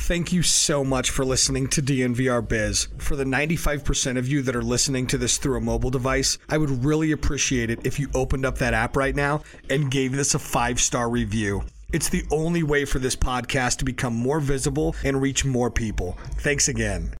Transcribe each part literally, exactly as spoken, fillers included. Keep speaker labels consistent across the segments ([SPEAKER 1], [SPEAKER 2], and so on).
[SPEAKER 1] Thank you so much for listening to D N V R Biz. For the ninety-five percent of you that are listening to this through a mobile device, I would really appreciate it if you opened up that app right now and gave this a five-star review. It's the only way for this podcast to become more visible and reach more people. Thanks again.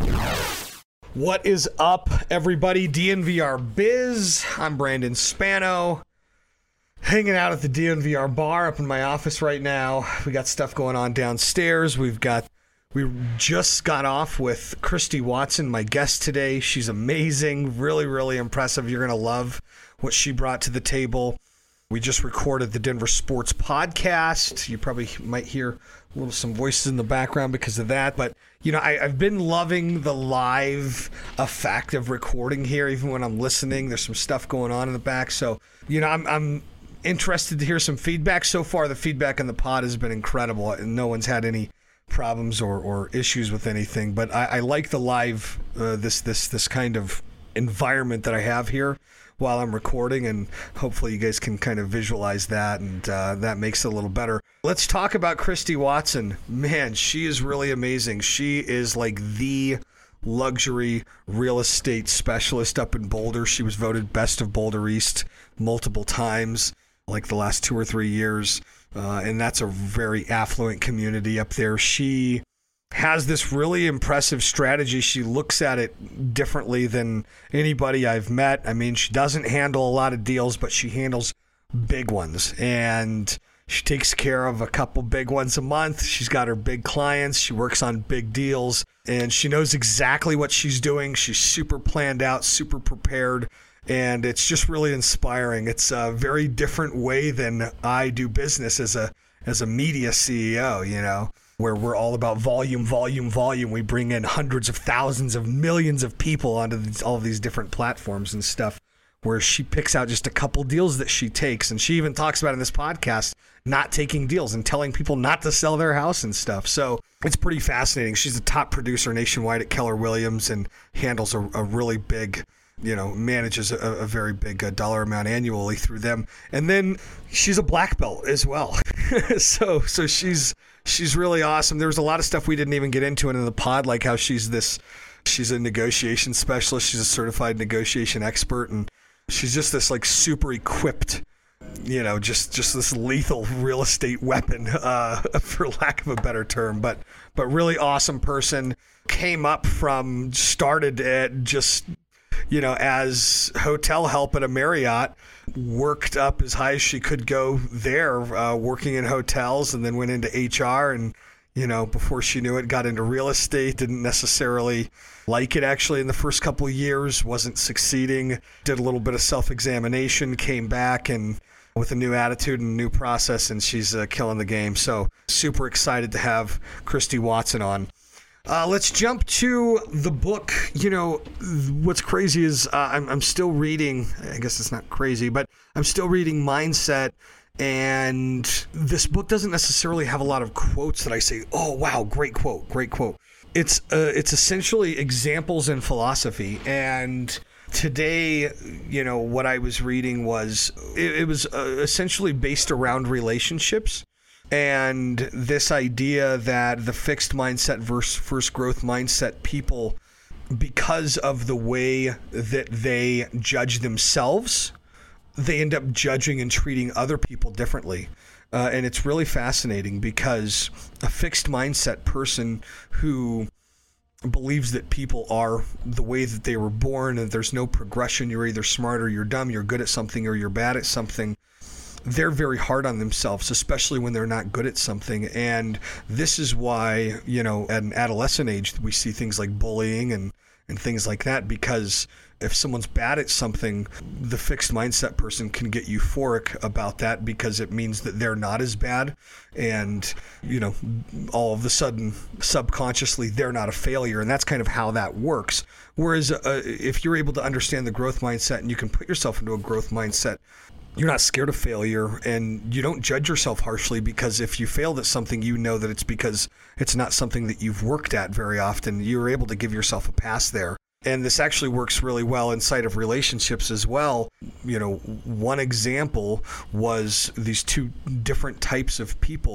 [SPEAKER 1] What is up, everybody? D N V R Biz. I'm Brandon Spano. Hanging out at the D N V R bar up in my office right now. We got stuff going on downstairs. We've got, we just got off with Christy Watson, my guest today. She's amazing, really, really impressive. You're going to love what she brought to the table. We just recorded the Denver Sports Podcast. You probably might hear a little some voices in the background because of that. But, you know, I, I've been loving the live effect of recording here. Even when I'm listening, there's some stuff going on in the back. So, you know, I'm I'm interested to hear some feedback. So far, the feedback on the pod has been incredible. And no one's had any problems or, or issues with anything. But I, I like the live, uh, this this this kind of environment that I have here while I'm recording, and hopefully you guys can kind of visualize that, and uh, that makes it a little better. Let's talk about Christy Watson. Man, she is really amazing. She is like the luxury real estate specialist up in Boulder. She was voted best of Boulder East multiple times, like the last two or three years, uh, and that's a very affluent community up there. She has this really impressive strategy. She looks at it differently than anybody I've met. I mean, she doesn't handle a lot of deals, but she handles big ones, and she takes care of a couple big ones a month. She's got her big clients. She works on big deals, and she knows exactly what she's doing. She's super planned out, super prepared, and it's just really inspiring. It's a very different way than I do business as a as a media C E O, you know, where we're all about volume, volume, volume. We bring in hundreds of thousands of millions of people onto these, all of these different platforms and stuff, where she picks out just a couple deals that she takes. And she even talks about in this podcast, not taking deals and telling people not to sell their house and stuff. So it's pretty fascinating. She's a top producer nationwide at Keller Williams and handles a, a really big, you know, manages a, a very big uh, dollar amount annually through them. And then she's a black belt as well. so, so she's, She's really awesome. There was a lot of stuff we didn't even get into in the pod, like how she's this, she's a negotiation specialist. She's a certified negotiation expert, and she's just this like super equipped, you know, just, just this lethal real estate weapon, uh, for lack of a better term, but, but really awesome person. Came up from, started at just, you know, as hotel help at a Marriott, worked up as high as she could go there, uh, working in hotels, and then went into H R, and, you know, before she knew it, got into real estate. Didn't necessarily like it actually in the first couple of years, wasn't succeeding, did a little bit of self-examination, came back and with a new attitude and a new process, and she's uh, killing the game. So super excited to have Christy Watson on. Uh, let's jump to the book. You know, what's crazy is uh, I'm, I'm still reading, I guess it's not crazy, but I'm still reading Mindset, and this book doesn't necessarily have a lot of quotes that I say, oh, wow, great quote, great quote. It's uh, it's essentially examples in philosophy, and today, you know, what I was reading was, it, it was uh, essentially based around relationships. And this idea that the fixed mindset versus first growth mindset people, because of the way that they judge themselves, they end up judging and treating other people differently. Uh, and it's really fascinating because a fixed mindset person who believes that people are the way that they were born and there's no progression, you're either smart or you're dumb, you're good at something or you're bad at something, they're very hard on themselves, especially when they're not good at something. And this is why, you know, at an adolescent age, we see things like bullying and, and things like that, because if someone's bad at something, the fixed mindset person can get euphoric about that because it means that they're not as bad. And, you know, all of a sudden, subconsciously, they're not a failure. And that's kind of how that works. Whereas uh, if you're able to understand the growth mindset and you can put yourself into a growth mindset, you're not scared of failure, and you don't judge yourself harshly, because if you failed at something, you know that it's because it's not something that you've worked at very often. You're able to give yourself a pass there. And this actually works really well inside of relationships as well. You know, one example was these two different types of people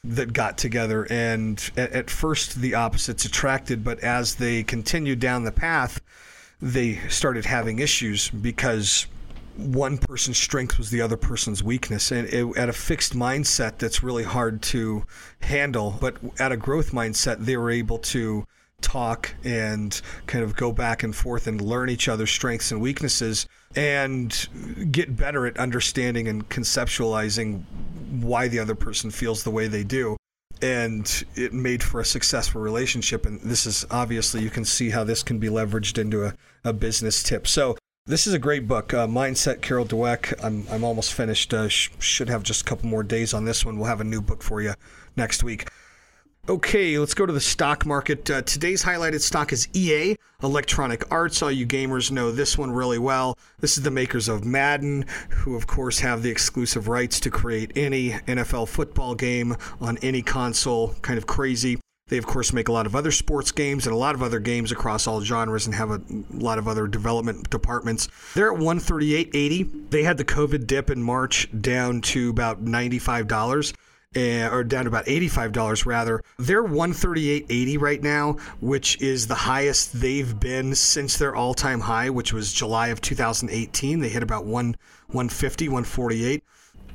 [SPEAKER 1] that got together, and at, at first the opposites attracted, but as they continued down the path, they started having issues because one person's strength was the other person's weakness, and it, at a fixed mindset that's really hard to handle. But at a growth mindset, they were able to talk and kind of go back and forth and learn each other's strengths and weaknesses and get better at understanding and conceptualizing why the other person feels the way they do. And it made for a successful relationship. And this is obviously, you can see how this can be leveraged into a, a business tip. So this is a great book, uh, Mindset, Carol Dweck. I'm I'm almost finished. Uh, sh- should have just a couple more days on this one. We'll have a new book for you next week. Okay, let's go to the stock market. Uh, today's highlighted stock is E A, Electronic Arts. All you gamers know this one really well. This is the makers of Madden, who of course have the exclusive rights to create any N F L football game on any console. Kind of crazy. They, of course, make a lot of other sports games and a lot of other games across all genres and have a lot of other development departments. They're at one thirty-eight eighty. They had the COVID dip in March down to about ninety-five dollars. Uh, or down to about eighty-five dollars rather. They're one thirty-eight eighty right now, which is the highest they've been since their all-time high, which was July of two thousand eighteen. They hit about one fifty, one forty-eight.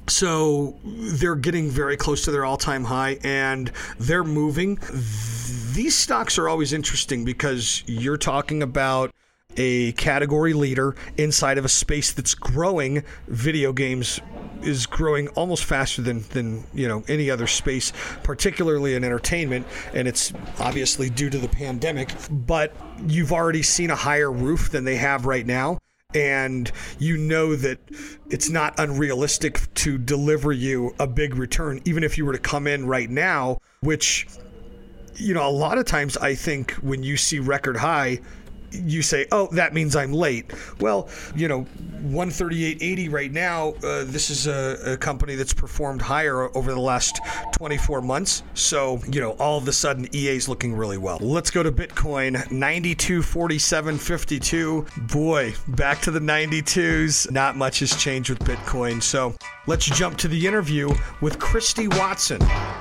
[SPEAKER 1] So they're getting very close to their all-time high, and they're moving. These stocks are always interesting because you're talking about a category leader inside of a space that's growing. Video games is growing almost faster than, than you know any other space, particularly in entertainment, and it's obviously due to the pandemic. But you've already seen a higher roof than they have right now, and you know that it's not unrealistic to deliver you a big return, even if you were to come in right now, which, you know, a lot of times I think when you see record high, you say, oh, that means I'm late. Well, you know, one thirty-eight eighty right now, uh, this is a, a company that's performed higher over the last twenty-four months. So, you know, all of a sudden E A's looking really well. Let's go to Bitcoin, ninety-two forty-seven fifty-two. Boy, back to the ninety-twos. Not much has changed with Bitcoin. So let's jump to the interview with Christy Watson.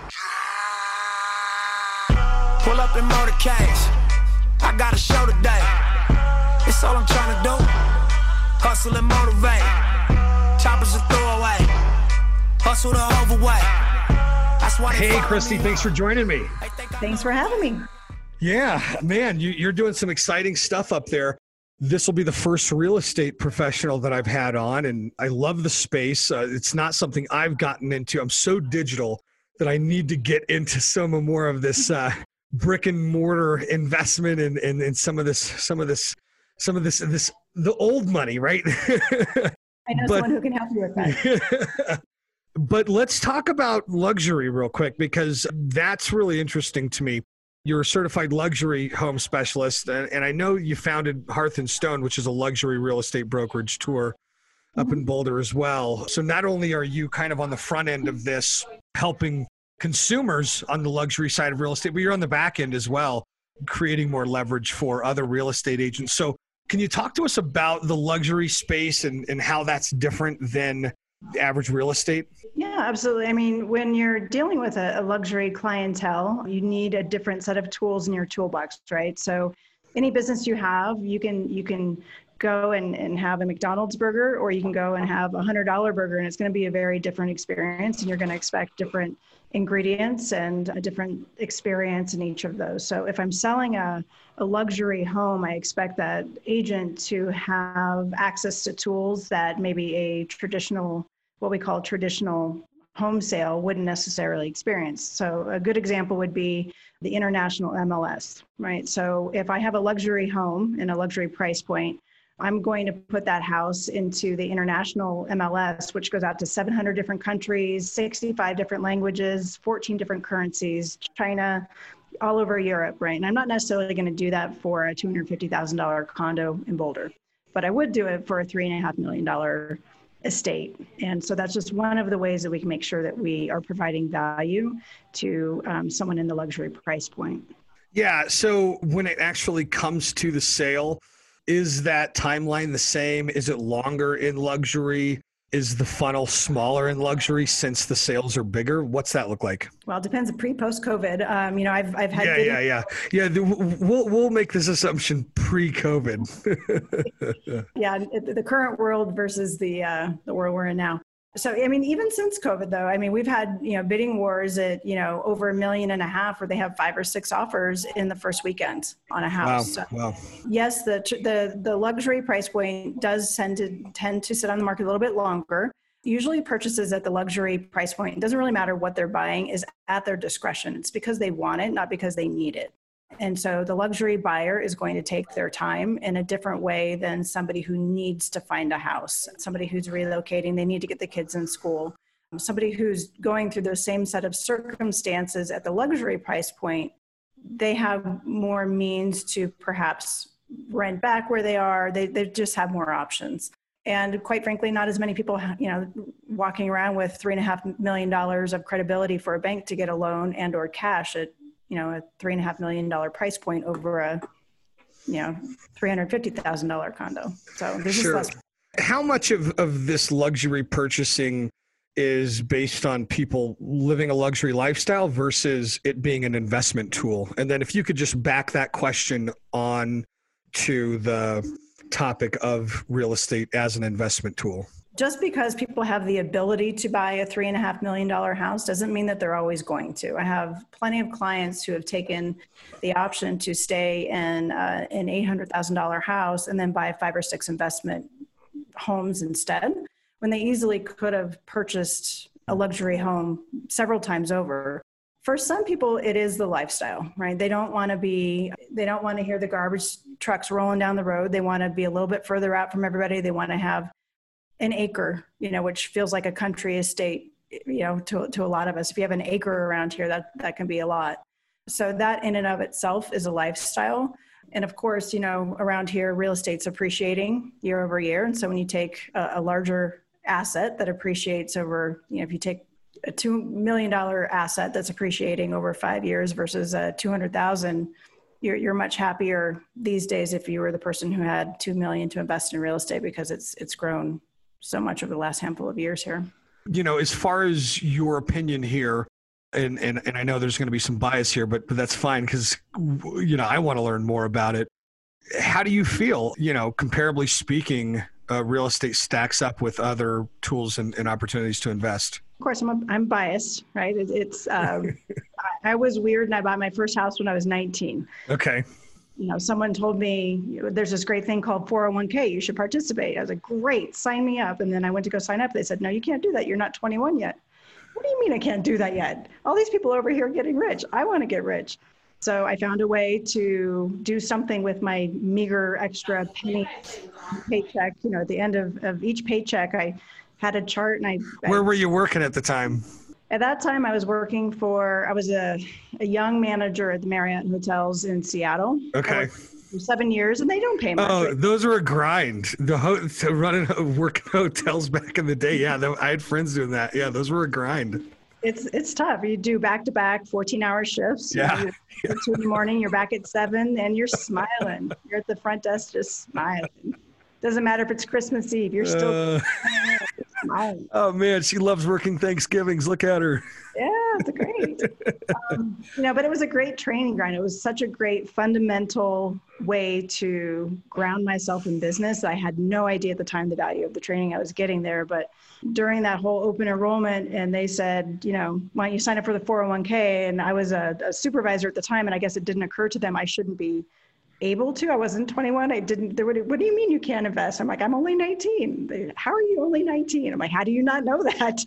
[SPEAKER 2] Pull up in motorcades. I got a show today. It's all I'm trying to do. Hustle and motivate. Choppers a throwaway. Hustle the overweight. That's why.
[SPEAKER 1] Hey, Christy, thanks for joining me.
[SPEAKER 3] Thanks for having me.
[SPEAKER 1] Yeah, man, you, you're doing some exciting stuff up there. This will be the first real estate professional that I've had on, and I love the space. Uh, it's not something I've gotten into. I'm so digital that I need to get into some more of this uh, brick and mortar investment and, and, and some of this, some of this, some of this, this, the old money, right?
[SPEAKER 3] I know
[SPEAKER 1] but,
[SPEAKER 3] someone who can help you with that.
[SPEAKER 1] But let's talk about luxury real quick, because that's really interesting to me. You're a certified luxury home specialist, and, and I know you founded Hearth and Stone, which is a luxury real estate brokerage tour up mm-hmm. in Boulder as well. So not only are you kind of on the front end of this, helping consumers on the luxury side of real estate, but you're on the back end as well, creating more leverage for other real estate agents. So can you talk to us about the luxury space and, and how that's different than the average real estate?
[SPEAKER 3] Yeah, absolutely. I mean, when you're dealing with a, a luxury clientele, you need a different set of tools in your toolbox, right? So any business you have, you can you can go and, and have a McDonald's burger, or you can go and have a one hundred dollar burger, and it's going to be a very different experience, and you're going to expect different ingredients and a different experience in each of those. So if I'm selling a, a luxury home, I expect that agent to have access to tools that maybe a traditional, what we call traditional home sale wouldn't necessarily experience. So a good example would be the international M L S, right? So if I have a luxury home in a luxury price point, I'm going to put that house into the international M L S, which goes out to seven hundred different countries, sixty-five different languages, fourteen different currencies, China, all over Europe, right? And I'm not necessarily going to do that for a two hundred fifty thousand dollars condo in Boulder, but I would do it for a three and a half million dollar estate. And so that's just one of the ways that we can make sure that we are providing value to um, someone in the luxury price point.
[SPEAKER 1] Yeah. So when it actually comes to the sale, is that timeline the same? Is it longer in luxury? Is the funnel smaller in luxury since the sales are bigger? What's that look like?
[SPEAKER 3] Well, it depends pre post COVID. Um, you know, I've I've had
[SPEAKER 1] yeah
[SPEAKER 3] video-
[SPEAKER 1] yeah yeah yeah. The, we'll we'll make this assumption pre COVID.
[SPEAKER 3] yeah, the current world versus the uh, the world we're in now. So, I mean, even since COVID, though, I mean, we've had, you know, bidding wars at, you know, over a million and a half where they have five or six offers in the first weekend on a house.
[SPEAKER 1] Wow.
[SPEAKER 3] So,
[SPEAKER 1] wow.
[SPEAKER 3] yes, the, the, the luxury price point does tend to tend to sit on the market a little bit longer. Usually purchases at the luxury price point, it doesn't really matter what they're buying, is at their discretion. It's because they want it, not because they need it. And so the luxury buyer is going to take their time in a different way than somebody who needs to find a house, somebody who's relocating, they need to get the kids in school, somebody who's going through those same set of circumstances at the luxury price point. They have more means to perhaps rent back where they are. They, they just have more options. And quite frankly, not as many people, you know, walking around with three and a half million dollars of credibility for a bank to get a loan and or cash at, you know, a three and a half million dollar price point over a, you know, three hundred fifty thousand dollar condo. So there's
[SPEAKER 1] Sure.
[SPEAKER 3] just less.
[SPEAKER 1] How much of, of this luxury purchasing is based on people living a luxury lifestyle versus it being an investment tool? And then if you could just back that question on to the topic of real estate as an investment tool.
[SPEAKER 3] Just because people have the ability to buy a three and a half million dollar house doesn't mean that they're always going to. I have plenty of clients who have taken the option to stay in uh, an eight hundred thousand dollar house and then buy five or six investment homes instead, when they easily could have purchased a luxury home several times over. For some people, it is the lifestyle, right? They don't want to be, they don't want to hear the garbage trucks rolling down the road. They want to be a little bit further out from everybody. They want to have an acre, you know, which feels like a country estate, you know, to, to a lot of us. If you have an acre around here, that, that can be a lot. So that in and of itself is a lifestyle. And of course, you know, around here, real estate's appreciating year over year. And so when you take a, a larger asset that appreciates over, you know, if you take a two million dollars asset that's appreciating over five years versus a two hundred thousand, you're, you're much happier these days if you were the person who had two million to invest in real estate because it's, it's grown so much over the last handful of years here.
[SPEAKER 1] You know, as far as your opinion here, and, and, and I know there's going to be some bias here, but, but that's fine because, you know, I want to learn more about it. How do you feel, you know, comparably speaking, uh, real estate stacks up with other tools and, and opportunities to invest?
[SPEAKER 3] Of course, I'm, a, I'm biased, right? It, it's, um, I, I was weird and I bought my first house when I was nineteen.
[SPEAKER 1] Okay.
[SPEAKER 3] You know, someone told me there's this great thing called four oh one k. You should participate. I was like, great, sign me up. And then I went to go sign up. They said, no, you can't do that. You're not twenty-one yet. What do you mean I can't do that yet? All these people over here are getting rich. I want to get rich. So I found a way to do something with my meager extra penny paycheck. You know, at the end of, of each paycheck, I had a chart and I-
[SPEAKER 1] Where
[SPEAKER 3] I,
[SPEAKER 1] were you working at the time?
[SPEAKER 3] At that time, I was working for, I was a, a young manager at the Marriott Hotels in Seattle.
[SPEAKER 1] Okay.
[SPEAKER 3] For seven years, and they don't pay much.
[SPEAKER 1] Oh, those were a grind. The ho- to running working hotels back in the day. Yeah, th- I had friends doing that. Yeah, those were a grind.
[SPEAKER 3] It's it's tough. You do back to back fourteen hour shifts.
[SPEAKER 1] Yeah.
[SPEAKER 3] You know, two in the morning, you're back at seven, and you're smiling. You're at the front desk just smiling. Doesn't matter if it's Christmas Eve. You're still
[SPEAKER 1] Uh,
[SPEAKER 3] smiling.
[SPEAKER 1] oh man, she loves working Thanksgivings. Look at her.
[SPEAKER 3] Yeah, it's great. um, you know, but it was a great training grind. It was such a great fundamental way to ground myself in business. I had no idea at the time the value of the training I was getting there. But during that whole open enrollment, and they said, you know, why don't you sign up for the four oh one k? And I was a, a supervisor at the time, and I guess it didn't occur to them I shouldn't be able to. I wasn't twenty-one. I didn't, they would, what do you mean you can't invest? I'm like, I'm only nineteen. They, how are you only nineteen? I'm like, how do you not know that?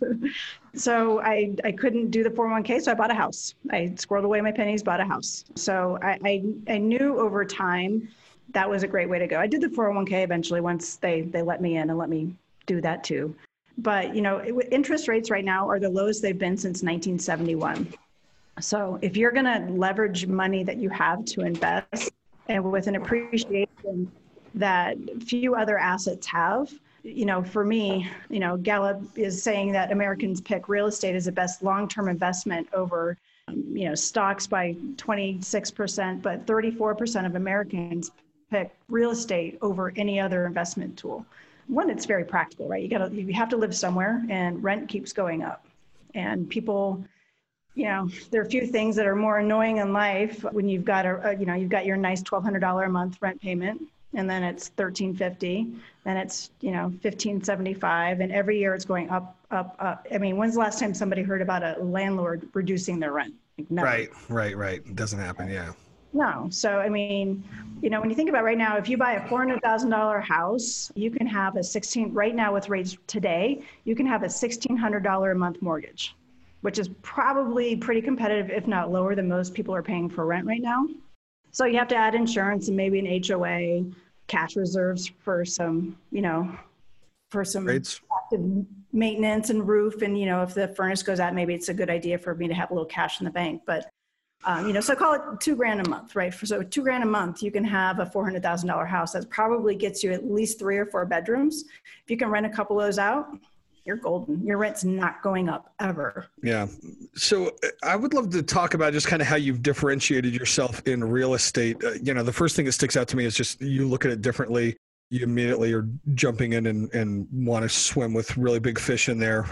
[SPEAKER 3] So I, I couldn't do the four oh one k. So I bought a house. I squirreled away my pennies, bought a house. So I, I, I knew over time that was a great way to go. I did the four oh one k eventually once they, they let me in and let me do that too. But, you know, it, interest rates right now are the lowest they've been since nineteen seventy-one. So if you're going to leverage money that you have to invest, and with an appreciation that few other assets have, you know, for me, you know, Gallup is saying that Americans pick real estate as the best long-term investment over, um, you know, stocks by twenty-six percent, but thirty-four percent of Americans pick real estate over any other investment tool. one, it's very practical, right? You gotta, you have to live somewhere, and rent keeps going up. And people, you know, there are a few things that are more annoying in life when you've got a, a you know, you've got your nice twelve hundred dollars a month rent payment, and then it's thirteen fifty, then it's, you know, fifteen seventy-five, and every year it's going up, up, up. I mean, when's the last time somebody heard about a landlord reducing their rent? Like, never.
[SPEAKER 1] Right, right, right. It doesn't happen, yeah.
[SPEAKER 3] No. So, I mean, you know, when you think about right now, if you buy a four hundred thousand dollars house, you can have a sixteen, right now with rates today, you can have a sixteen hundred dollars a month mortgage, which is probably pretty competitive, if not lower than most people are paying for rent right now. So you have to add insurance and maybe an H O A, cash reserves for some, you know, for some
[SPEAKER 1] Rates.
[SPEAKER 3] active maintenance and roof. And, you know, if the furnace goes out, maybe it's a good idea for me to have a little cash in the bank. But Um, you know, so call it two grand a month, right? For, so two grand a month, you can have a four hundred thousand dollars house that probably gets you at least three or four bedrooms. If you can rent a couple of those out, you're golden. Your rent's not going up ever.
[SPEAKER 1] Yeah. So I would love to talk about just kind of how you've differentiated yourself in real estate. Uh, you know, the first thing that sticks out to me is just you look at it differently. You immediately are jumping in and, and want to swim with really big fish in there.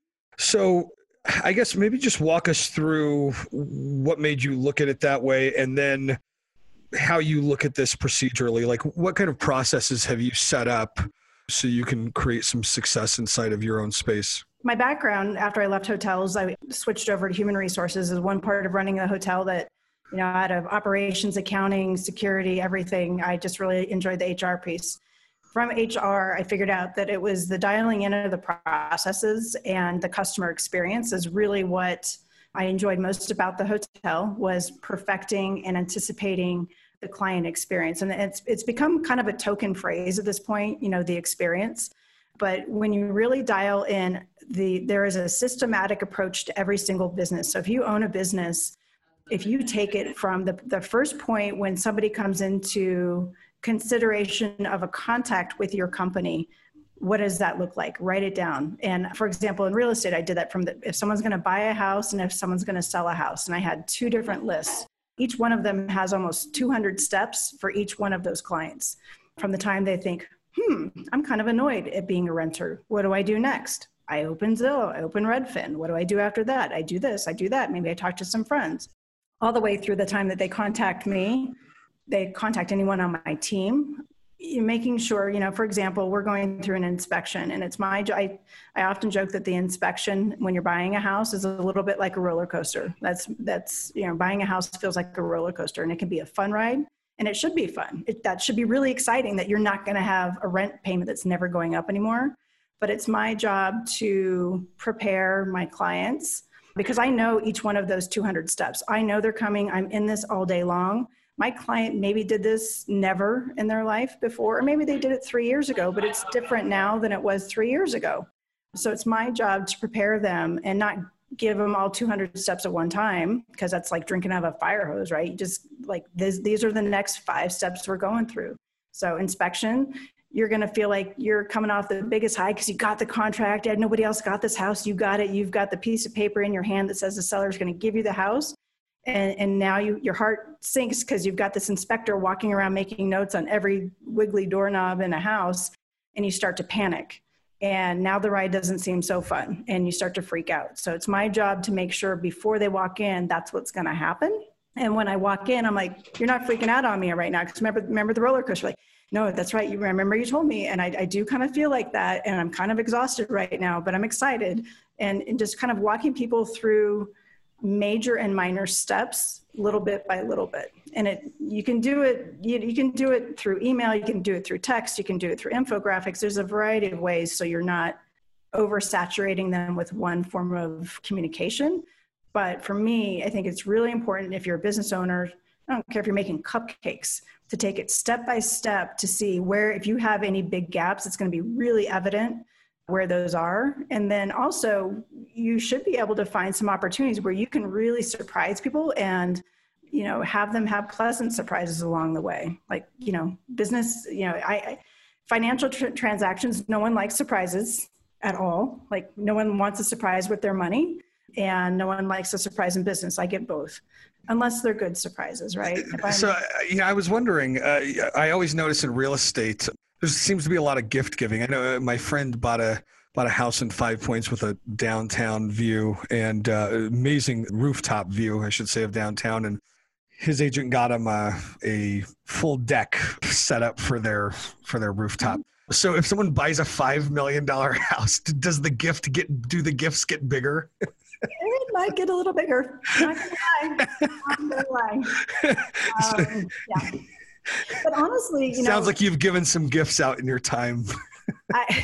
[SPEAKER 1] So I guess maybe just walk us through what made you look at it that way, and then how you look at this procedurally. Like, what kind of processes have you set up so you can create some success inside of your own space?
[SPEAKER 3] My background, after I left hotels, I switched over to human resources as one part of running a hotel that, you know, out of operations, accounting, security, everything. I just really enjoyed the H R piece. From H R, I figured out that it was the dialing in of the processes and the customer experience is really what I enjoyed most about the hotel, was perfecting and anticipating the client experience. And it's it's become kind of a token phrase at this point, you know, the experience. But when you really dial in, the there is a systematic approach to every single business. So if you own a business, if you take it from the, the first point when somebody comes into consideration of a contact with your company, what does that look like? Write it down. And for example, in real estate, I did that from the, if someone's going to buy a house and if someone's going to sell a house. And I had two different lists. Each one of them has almost two hundred steps for each one of those clients. From the time they think, hmm, I'm kind of annoyed at being a renter. What do I do next? I open Zillow, I open Redfin. What do I do after that? I do this, I do that. Maybe I talk to some friends. All the way through the time that they contact me, they contact anyone on my team, making sure, you know, for example, we're going through an inspection, and it's my, I, I often joke that the inspection when you're buying a house is a little bit like a roller coaster. That's, that's, you know, buying a house feels like a roller coaster, and it can be a fun ride, and it should be fun. It, that should be really exciting that you're not going to have a rent payment that's never going up anymore. But it's my job to prepare my clients, because I know each one of those two hundred steps. I know they're coming. I'm in this all day long. My client maybe did this never in their life before, or maybe they did it three years ago, but it's different now than it was three years ago. So it's my job to prepare them and not give them all two hundred steps at one time, because that's like drinking out of a fire hose, right? You just like, this, these are the next five steps we're going through. So inspection, you're going to feel like you're coming off the biggest high because you got the contract and nobody else got this house. You got it. You've got the piece of paper in your hand that says the seller is going to give you the house. And, and now you, your heart sinks because you've got this inspector walking around making notes on every wiggly doorknob in a house, and you start to panic. And now the ride doesn't seem so fun, and you start to freak out. So it's my job to make sure before they walk in, that's what's going to happen. And when I walk in, I'm like, you're not freaking out on me right now. Because remember, remember the roller coaster? Like, no, that's right. You remember you told me. And I, I do kind of feel like that. And I'm kind of exhausted right now, but I'm excited. And, and just kind of walking people through major and minor steps, little bit by little bit. And it, you can do it, you, you can do it through email, you can do it through text, you can do it through infographics. There's a variety of ways, so you're not oversaturating them with one form of communication. But for me, I think it's really important, if you're a business owner, I don't care if you're making cupcakes, to take it step by step to see where, if you have any big gaps, it's going to be really evident where those are. And then also you should be able to find some opportunities where you can really surprise people and, you know, have them have pleasant surprises along the way. Like, you know, business, you know, I, I financial tr- transactions, no one likes surprises at all. Like, no one wants a surprise with their money, and no one likes a surprise in business. I get both, unless they're good surprises, right?
[SPEAKER 1] So, yeah, I was wondering, uh, I always notice in real estate, There seems to be a lot of gift giving. I know uh, my friend bought a bought a house in Five Points with a downtown view and uh, amazing rooftop view, I should say, of downtown. And his agent got him a, a full deck set up for their for their rooftop. So if someone buys a five million dollar house, does the gift get do the gifts get bigger?
[SPEAKER 3] It might get a little bigger. Not gonna lie. Not gonna lie. Um, yeah. But honestly, you know,
[SPEAKER 1] sounds like you've given some gifts out in your time.
[SPEAKER 3] I,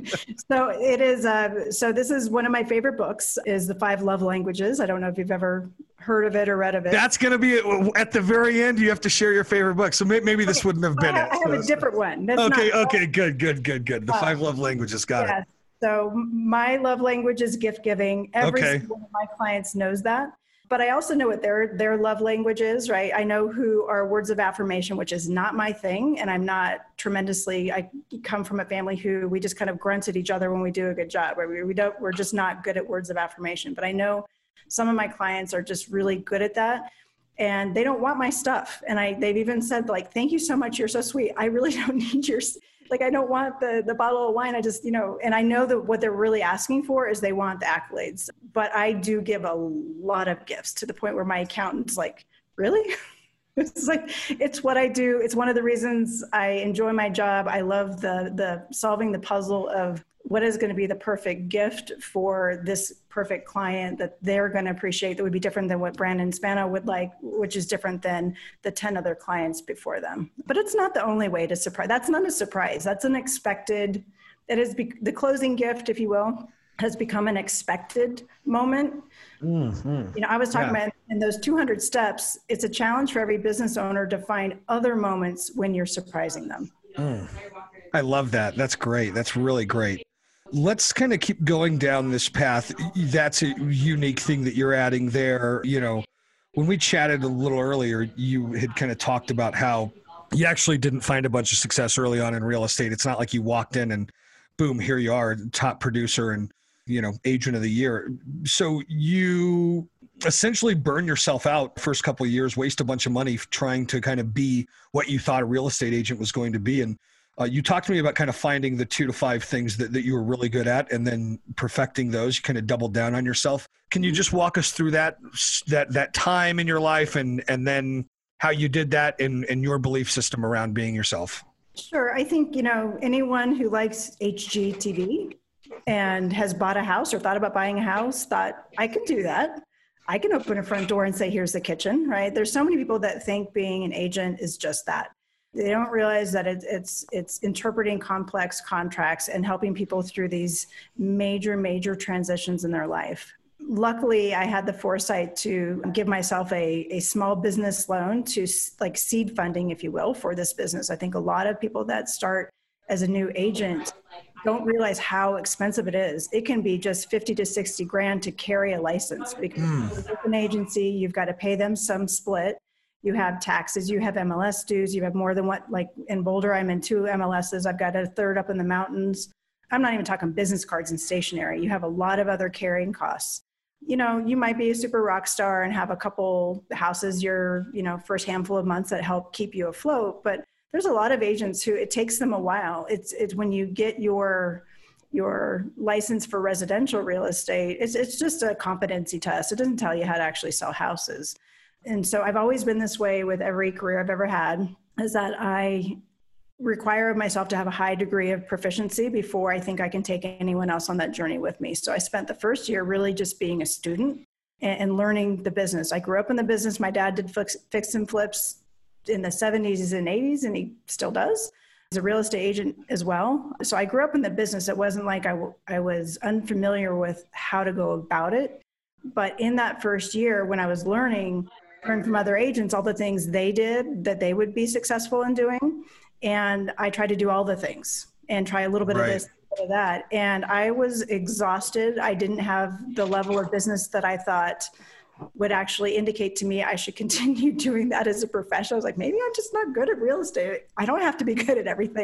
[SPEAKER 3] so it is. Uh, so this is one of my favorite books. Is The Five Love Languages. I don't know if you've ever heard of it or read of it.
[SPEAKER 1] That's going to be at the very end. You have to share your favorite book. So maybe, maybe this okay. wouldn't have been
[SPEAKER 3] I,
[SPEAKER 1] it.
[SPEAKER 3] I have
[SPEAKER 1] so
[SPEAKER 3] a different one. That's
[SPEAKER 1] okay.
[SPEAKER 3] Not,
[SPEAKER 1] okay. Good. Good. Good. Good. The uh, Five Love Languages. Got yes. it.
[SPEAKER 3] So my love language is gift giving. Every
[SPEAKER 1] okay.
[SPEAKER 3] single one of my clients knows that. But I also know what their their love language is, right? I know who are words of affirmation, which is not my thing. And I'm not tremendously, I come from a family who we just kind of grunt at each other when we do a good job. Right? We, we don't, we're just not good at words of affirmation. But I know some of my clients are just really good at that. And they don't want my stuff. And I they've even said, like, thank you so much. You're so sweet. I really don't need your Like, I don't want the, the bottle of wine. I just, you know, and I know that what they're really asking for is they want the accolades. But I do give a lot of gifts to the point where my accountant's like, really? It's like, it's what I do. It's one of the reasons I enjoy my job. I love the the solving the puzzle of what is going to be the perfect gift for this perfect client that they're going to appreciate, that would be different than what Brandon Spano would like, which is different than the ten other clients before them. But it's not the only way to surprise. That's not a surprise. That's an expected, it is be, the closing gift, if you will, has become an expected moment. Mm-hmm. You know, I was talking yeah. about in those two hundred steps, it's a challenge for every business owner to find other moments when you're surprising them.
[SPEAKER 1] Mm. I love that. That's great. That's really great. Let's kind of keep going down this path. That's a unique thing that you're adding there. You know, when we chatted a little earlier, you had kind of talked about how you actually didn't find a bunch of success early on in real estate. It's not like you walked in and boom, here you are, top producer and, you know, agent of the year. So you essentially burn yourself out first couple of years, waste a bunch of money trying to kind of be what you thought a real estate agent was going to be. And Uh, you talked to me about kind of finding the two to five things that, that you were really good at and then perfecting those. You kind of doubled down on yourself. Can you just walk us through that that that time in your life and and then how you did that in, in your belief system around being yourself?
[SPEAKER 3] Sure. I think, you know, anyone who likes H G T V and has bought a house or thought about buying a house thought, I can do that. I can open a front door and say, here's the kitchen, right? There's so many people that think being an agent is just that. They don't realize that it, it's it's interpreting complex contracts and helping people through these major, major transitions in their life. Luckily, I had the foresight to give myself a, a small business loan to like seed funding, if you will, for this business. I think a lot of people that start as a new agent don't realize how expensive it is. It can be just fifty to sixty grand to carry a license because mm. it's an agency, you've got to pay them some split. You have taxes, you have M L S dues, you have more than what, like in Boulder, I'm in two M L Ss. I've got a third up in the mountains. I'm not even talking business cards and stationery. You have a lot of other carrying costs. You know, you might be a super rock star and have a couple houses your, you know, first handful of months that help keep you afloat. But there's a lot of agents who it takes them a while. It's it's when you get your your license for residential real estate, it's it's just a competency test. It doesn't tell you how to actually sell houses. And so I've always been this way with every career I've ever had, is that I require of myself to have a high degree of proficiency before I think I can take anyone else on that journey with me. So I spent the first year really just being a student and, and learning the business. I grew up in the business. My dad did fix, fix and flips in the seventies and eighties, and he still does. He's a real estate agent as well. So I grew up in the business. It wasn't like I, w- I was unfamiliar with how to go about it. But in that first year when I was learning, learn from other agents, all the things they did that they would be successful in doing. And I tried to do all the things and try a little bit right. of this, a little bit of that. And I was exhausted. I didn't have the level of business that I thought would actually indicate to me I should continue doing that as a profession. I was like, maybe I'm just not good at real estate. I don't have to be good at everything.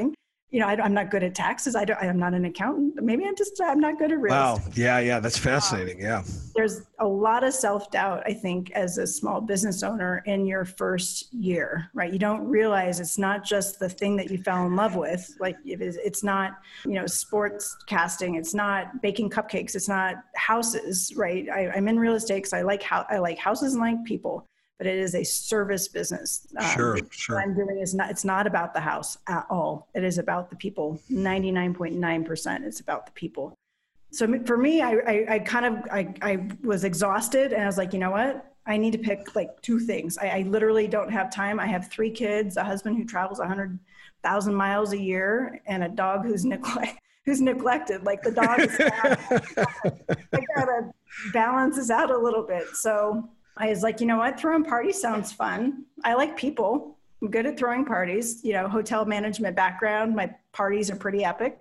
[SPEAKER 3] you know, I, I'm not good at taxes. I don't, I'm not an accountant. Maybe I'm just, I'm not good at real
[SPEAKER 1] Wow.
[SPEAKER 3] estate.
[SPEAKER 1] Yeah. Yeah. That's fascinating. Yeah.
[SPEAKER 3] There's a lot of self-doubt, I think, as a small business owner in your first year, right? You don't realize it's not just the thing that you fell in love with. Like it is, it's not, you know, sports casting. It's not baking cupcakes. It's not houses, right? I, I'm in real estate because I like how I like houses and like people. But it is a service business. Um,
[SPEAKER 1] Sure, sure.
[SPEAKER 3] What I'm doing is not, it's not about the house at all. It is about the people. ninety-nine point nine percent it's about the people. So for me, I, I, I kind of, I, I was exhausted and I was like, you know what? I need to pick like two things. I, I literally don't have time. I have three kids, a husband who travels one hundred thousand miles a year, and a dog who's neglect, who's neglected. Like the dog is, I gotta balance this out a little bit. So I was like, you know what, throwing parties sounds fun. I like people. I'm good at throwing parties, you know, hotel management background. My parties are pretty epic.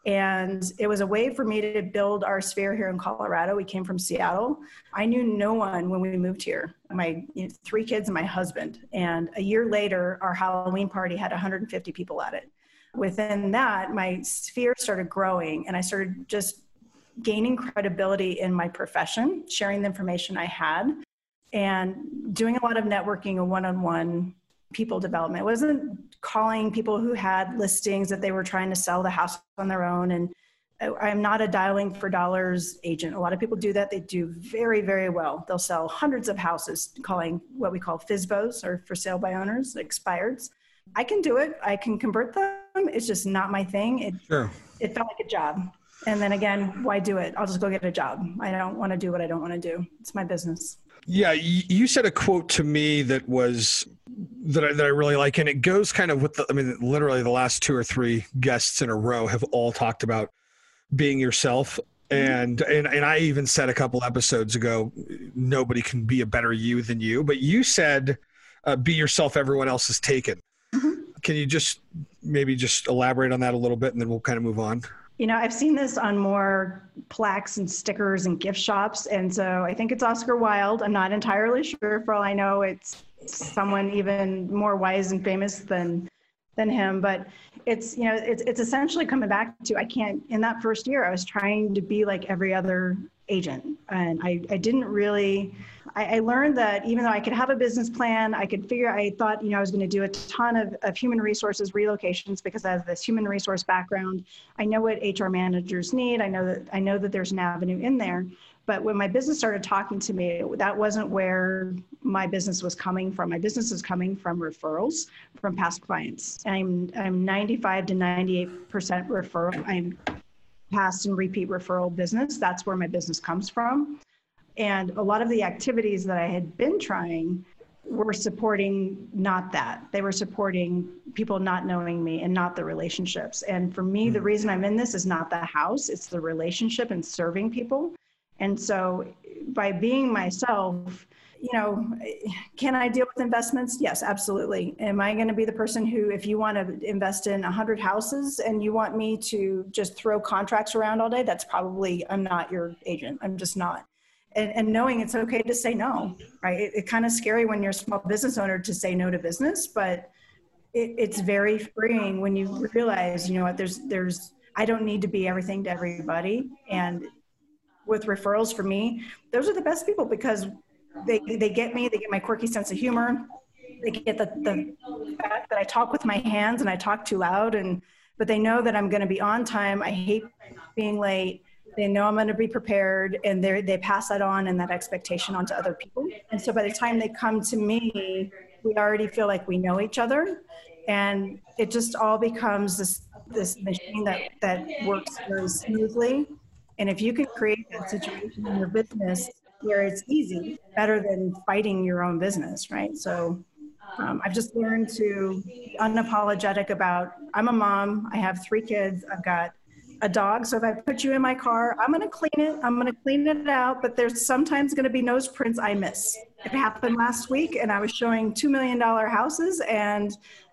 [SPEAKER 3] And it was a way for me to build our sphere here in Colorado. We came from Seattle. I knew no one when we moved here, my you know, three kids and my husband. And a year later, our Halloween party had one hundred fifty people at it. Within that, my sphere started growing and I started just gaining credibility in my profession, sharing the information I had, and doing a lot of networking and one-on-one people development. It wasn't calling people who had listings that they were trying to sell the house on their own. And I'm not a dialing for dollars agent. A lot of people do that. They do very, very well. They'll sell hundreds of houses calling what we call F S B Os, or for sale by owners, expireds. I can do it. I can convert them. It's just not my thing. It,
[SPEAKER 1] Sure.
[SPEAKER 3] It felt like a job. And then again, why do it? I'll just go get a job. I don't want to do what I don't want to do. It's my business.
[SPEAKER 1] Yeah, you said a quote to me that was that I, that I really like, and it goes kind of with the, I mean, literally the last two or three guests in a row have all talked about being yourself. And, and, and I even said a couple episodes ago, nobody can be a better you than you, but you said, uh, be yourself, everyone else is taken. Mm-hmm. Can you just maybe just elaborate on that a little bit, and then we'll kind of move on?
[SPEAKER 3] You know, I've seen this on more plaques and stickers and gift shops. And so I think it's Oscar Wilde. I'm not entirely sure. For all I know, it's someone even more wise and famous than than him. But it's, you know, it's it's essentially coming back to, I can't, in that first year, I was trying to be like every other agent. And I, I didn't really, I, I learned that even though I could have a business plan, I could figure, I thought, you know, I was going to do a ton of, of human resources relocations because I have this human resource background. I know what H R managers need. I know that, I know that there's an avenue in there. But when my business started talking to me, that wasn't where my business was coming from. My business is coming from referrals from past clients. I'm, I'm ninety-five to ninety-eight percent referral. I'm past and repeat referral business. That's where my business comes from. And a lot of the activities that I had been trying were supporting not that. They were supporting people not knowing me and not the relationships. And for me, the reason I'm in this is not the house, it's the relationship and serving people. And so by being myself, you know, can I deal with investments? Yes, absolutely. Am I going to be the person who, if you want to invest in one hundred houses and you want me to just throw contracts around all day, that's probably, I'm not your agent. I'm just not. And, and knowing it's okay to say no, right? It, it's kind of scary when you're a small business owner to say no to business, but it, it's very freeing when you realize, you know what, there's, there's, I don't need to be everything to everybody. And with referrals, for me, those are the best people because they they get me, they get my quirky sense of humor, they get the, the fact that I talk with my hands and I talk too loud, and but they know that I'm going to be on time. I hate being late. They know I'm going to be prepared, and they they pass that on and that expectation on to other people. And so by the time they come to me, we already feel like we know each other, and it just all becomes this this machine that that works very smoothly. And if you can create that situation in your business where it's easy, better than fighting your own business, right? So um, I've just learned to be unapologetic about, I'm a mom, I have three kids, I've got a dog. So if I put you in my car, I'm going to clean it, I'm going to clean it out, but there's sometimes going to be nose prints I miss. It happened last week and I was showing two million dollars houses and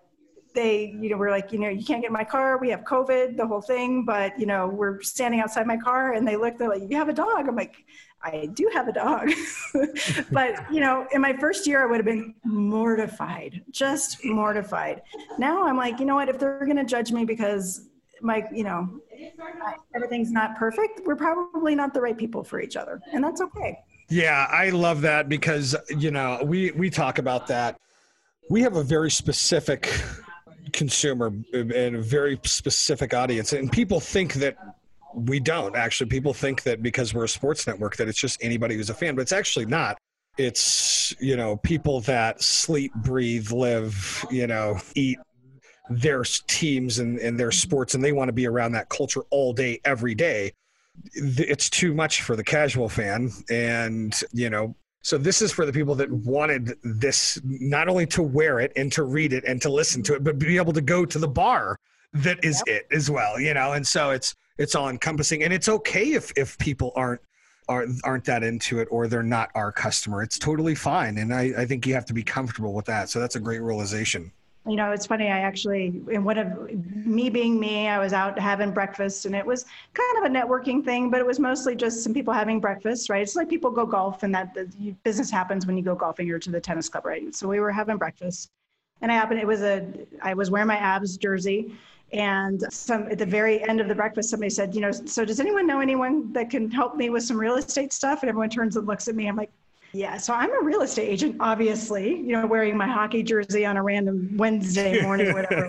[SPEAKER 3] they, you know, we're like, you know, you can't get in my car. We have COVID, the whole thing. But, you know, we're standing outside my car and they look, they're like, you have a dog. I'm like, I do have a dog. But, you know, in my first year, I would have been mortified, just mortified. Now I'm like, you know what, if they're going to judge me because my, you know, everything's not perfect, we're probably not the right people for each other. And that's okay.
[SPEAKER 1] Yeah, I love that because, you know, we, we talk about that. We have a very specific consumer and a very specific audience. And people think that we don't. Actually, people think that because we're a sports network that it's just anybody who's a fan, but it's actually not. It's, you know, people that sleep, breathe, live, you know, eat their teams and, and their sports, and they want to be around that culture all day, every day. It's too much for the casual fan. And, you know, so this is for the people that wanted this, not only to wear it and to read it and to listen to it, but be able to go to the bar that is yep. it as well, you know? And so it's, it's all encompassing, and it's okay if, if people aren't, aren't, aren't that into it, or they're not our customer. It's totally fine. And I, I think you have to be comfortable with that. So that's a great realization.
[SPEAKER 3] You know, it's funny, I actually, in one of me being me, I was out having breakfast, and it was kind of a networking thing, but it was mostly just some people having breakfast, right? It's like people go golf, and that the business happens when you go golfing or to the tennis club, right? So we were having breakfast, and I happened, it was a, I was wearing my Abs jersey, and some at the very end of the breakfast, somebody said, you know, so does anyone know anyone that can help me with some real estate stuff? And everyone turns and looks at me. I'm like, yeah, so I'm a real estate agent, obviously, you know, wearing my hockey jersey on a random Wednesday morning, whatever.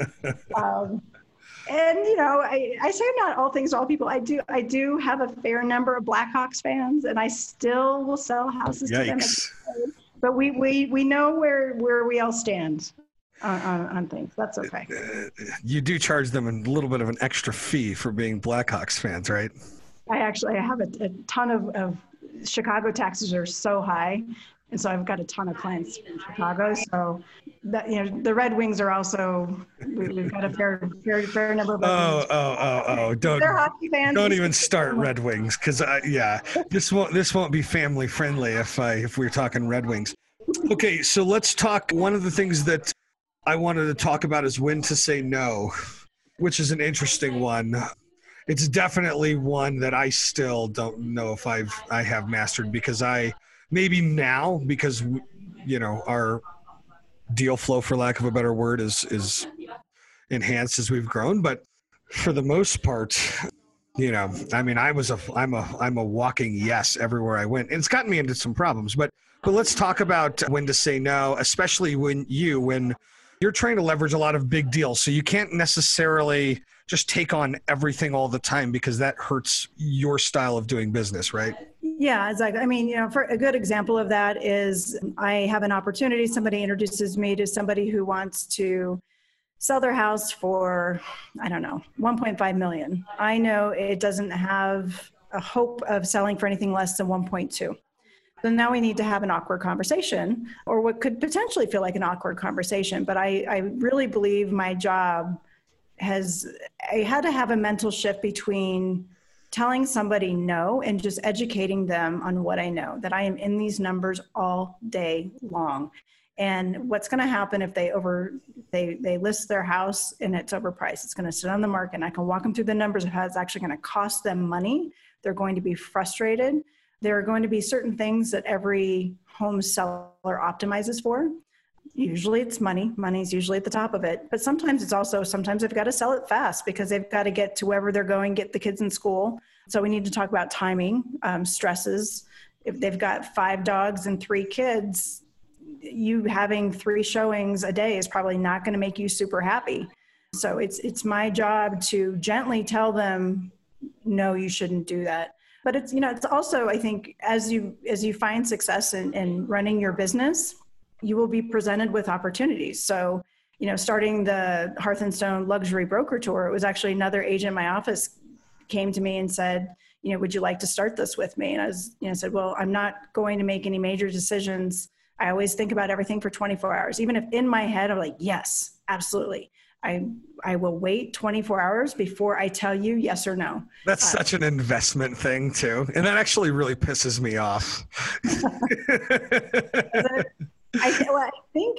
[SPEAKER 3] um, and, you know, I, I say not all things to all people. I do I do have a fair number of Blackhawks fans, and I still will sell houses
[SPEAKER 1] Yikes.
[SPEAKER 3] to them. But we, we, we know where, where we all stand on, on, on things. That's okay.
[SPEAKER 1] You do charge them a little bit of an extra fee for being Blackhawks fans, right?
[SPEAKER 3] I actually I have a, a ton of, of Chicago taxes are so high, and so I've got a ton of clients in Chicago. So that, you know, the Red Wings are also, we, we've got a fair, fair, fair number of.
[SPEAKER 1] Oh, oh, oh, oh! Don't,
[SPEAKER 3] they're hockey fans.
[SPEAKER 1] Don't even start Red Wings, because I, yeah, this won't, this won't be family friendly if I, if we're talking Red Wings. Okay, so let's talk. One of the things that I wanted to talk about is when to say no, which is an interesting one. It's definitely one that I still don't know if I've I have mastered, because I maybe now because you know our deal flow, for lack of a better word, is is enhanced as we've grown. But for the most part, you know, I mean, I was a I'm a I'm a walking yes everywhere I went, and it's gotten me into some problems. But but let's talk about when to say no, especially when you when you're trying to leverage a lot of big deals, so you can't necessarily just take on everything all the time, because that hurts your style of doing business, right?
[SPEAKER 3] Yeah, exactly. I mean, you know, for a good example of that is I have an opportunity. Somebody introduces me to somebody who wants to sell their house for, I don't know, one point five million. I know it doesn't have a hope of selling for anything less than one point two. So now we need to have an awkward conversation, or what could potentially feel like an awkward conversation. But I, I really believe my job has, I had to have a mental shift between telling somebody no and just educating them on what I know, that I am in these numbers all day long. And what's going to happen if they over, they, they list their house and it's overpriced, it's going to sit on the market, and I can walk them through the numbers of how it's actually going to cost them money. They're going to be frustrated. There are going to be certain things that every home seller optimizes for. Usually it's money. Money's usually at the top of it. But sometimes it's also, sometimes they've got to sell it fast because they've got to get to wherever they're going, get the kids in school. So we need to talk about timing, um, stresses. If they've got five dogs and three kids, you having three showings a day is probably not going to make you super happy. So it's it's my job to gently tell them, no, you shouldn't do that. But it's, you know, it's also, I think, as you as you find success in, in running your business, you will be presented with opportunities. So, you know, starting the Hearth and Stone Luxury Broker Tour, it was actually another agent in my office came to me and said, you know, would you like to start this with me? And I was, you know, said, well, I'm not going to make any major decisions. I always think about everything for twenty-four hours. Even if in my head, I'm like, yes, absolutely. I I will wait twenty-four hours before I tell you yes or no.
[SPEAKER 1] That's
[SPEAKER 3] uh,
[SPEAKER 1] such an investment thing too. And that actually really pisses me off.
[SPEAKER 3] I, well, I think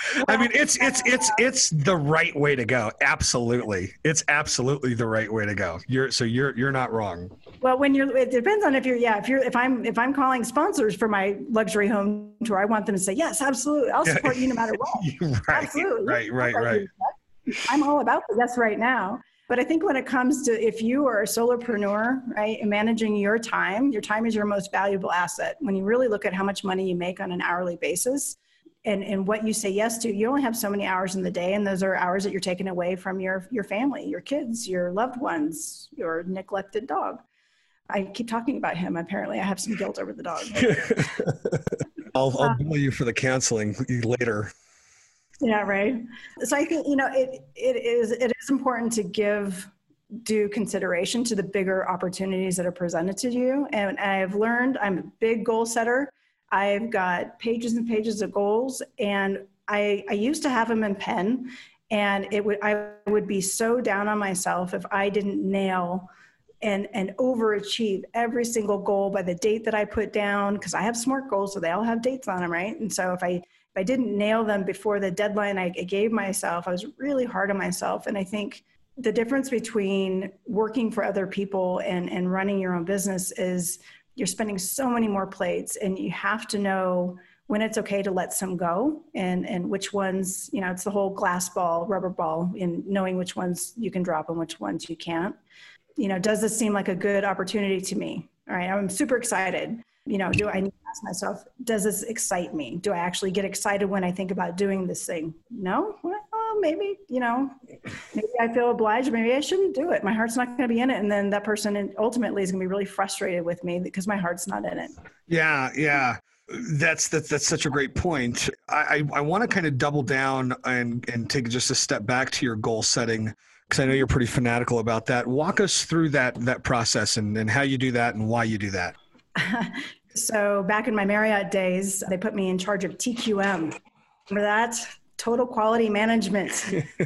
[SPEAKER 1] I mean, it's it's it's it's the right way to go. Absolutely, it's absolutely the right way to go. You're so you're you're not wrong.
[SPEAKER 3] Well, when you're, it depends on if you're, yeah, if you're, if I'm, if I'm calling sponsors for my luxury home tour, I want them to say, yes, absolutely. I'll support you no matter what.
[SPEAKER 1] Right,
[SPEAKER 3] absolutely.
[SPEAKER 1] right, right, right.
[SPEAKER 3] I'm all about the yes right now. But I think when it comes to, if you are a solopreneur, right, and managing your time, your time is your most valuable asset. When you really look at how much money you make on an hourly basis and, and what you say yes to, you only have so many hours in the day. And those are hours that you're taking away from your, your family, your kids, your loved ones, your neglected dog. I keep talking about him. Apparently, I have some guilt over the dog.
[SPEAKER 1] I'll, I'll bill you for the counseling later.
[SPEAKER 3] Yeah, right. So I think, you know, it it is it is important to give due consideration to the bigger opportunities that are presented to you. And I've learned, I'm a big goal setter. I've got pages and pages of goals, and I I used to have them in pen, and it would I would be so down on myself if I didn't nail and and overachieve every single goal by the date that I put down, because I have SMART goals, so they all have dates on them, right? And so if I if I didn't nail them before the deadline I gave myself, I was really hard on myself. And I think the difference between working for other people and, and running your own business is you're spending so many more plates, and you have to know when it's okay to let some go, and, and which ones, you know, it's the whole glass ball, rubber ball, in knowing which ones you can drop and which ones you can't. You know, does this seem like a good opportunity to me? All right, I'm super excited. You know, do I need to ask myself, does this excite me? Do I actually get excited when I think about doing this thing? No? Well, maybe, you know, maybe I feel obliged. Maybe I shouldn't do it. My heart's not going to be in it. And then that person ultimately is going to be really frustrated with me because my heart's not in it.
[SPEAKER 1] Yeah, yeah. That's that's that's such a great point. I, I, I want to kind of double down and, and take just a step back to your goal setting, because I know you're pretty fanatical about that. Walk us through that that process and, and how you do that and why you do that.
[SPEAKER 3] So back in my Marriott days, they put me in charge of T Q M. Remember that? Total Quality Management.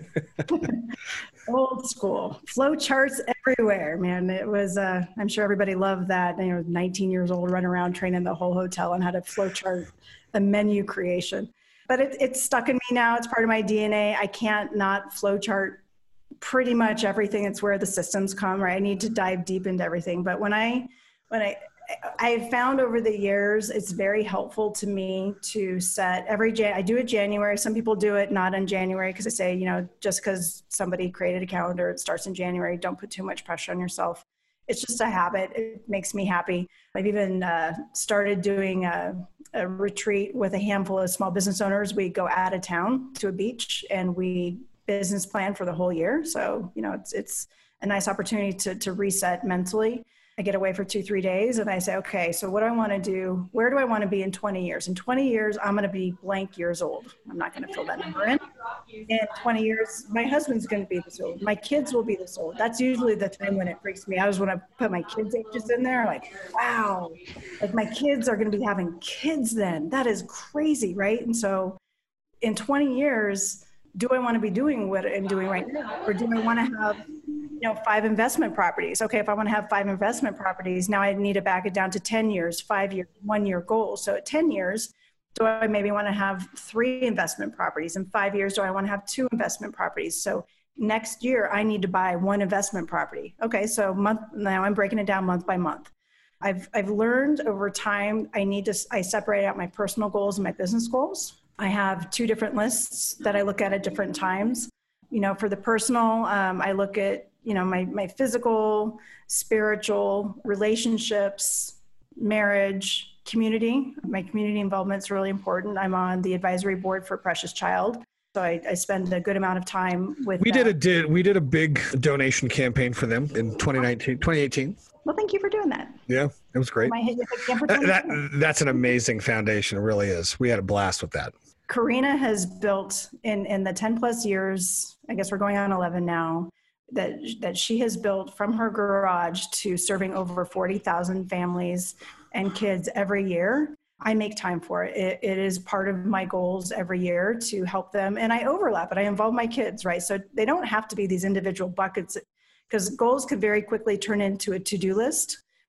[SPEAKER 3] Old school. Flow charts everywhere, man. It was, uh, I'm sure everybody loved that. You know, nineteen years old, running around training the whole hotel on how to flow chart the menu creation. But it, it's stuck in me now. It's part of my D N A. I can't not flow chart pretty much everything. It's where the systems come, right? I need to dive deep into everything. But when I, when I, I've found over the years, it's very helpful to me to set every, Jan- I do it January. Some people do it not in January because I say, you know, just because somebody created a calendar, it starts in January, don't put too much pressure on yourself. It's just a habit. It makes me happy. I've even uh, started doing a, a retreat with a handful of small business owners. We go out of town to a beach and we business plan for the whole year. So, you know, it's, it's a nice opportunity to, to reset mentally. I get away for two, three days and I say, okay, so what do I want to do? Where do I want to be in twenty years? In twenty years, I'm going to be blank years old. I'm not going to fill that number in. In twenty years, my husband's going to be this old. My kids will be this old. That's usually the time when it freaks me out, is when I put my kids' ages in there. Like, wow, like my kids are going to be having kids then. That is crazy, right? And so in twenty years, do I want to be doing what I'm doing right now? Or do I want to have, you know, five investment properties? Okay, if I want to have five investment properties, now I need to back it down to ten years, five years, one year goals. So at ten years, do I maybe want to have three investment properties? In five years, do I want to have two investment properties? So next year, I need to buy one investment property. Okay, so month, now I'm breaking it down month by month. I've, I've learned over time, I need to, I separate out my personal goals and my business goals. I have two different lists that I look at at different times. You know, for the personal, um, I look at, you know, my, my physical, spiritual, relationships, marriage, community. My community involvement is really important. I'm on the advisory board for Precious Child. So I, I spend a good amount of time with
[SPEAKER 1] We
[SPEAKER 3] them.
[SPEAKER 1] did a did we did a big donation campaign for them in twenty nineteen, twenty eighteen.
[SPEAKER 3] Well, thank you for doing that.
[SPEAKER 1] Yeah, it was great.
[SPEAKER 3] Am I hitting it again for
[SPEAKER 1] That, that,
[SPEAKER 3] twenty-two?
[SPEAKER 1] that's an amazing foundation. It really is. We had a blast with that.
[SPEAKER 3] Karina has built in, in the ten plus years, I guess we're going on eleven now, that that she has built from her garage to serving over forty thousand families and kids every year. I make time for it. it. It is part of my goals every year to help them. And I overlap it. I involve my kids, right? So they don't have to be these individual buckets, because goals could very quickly turn into a to-do list.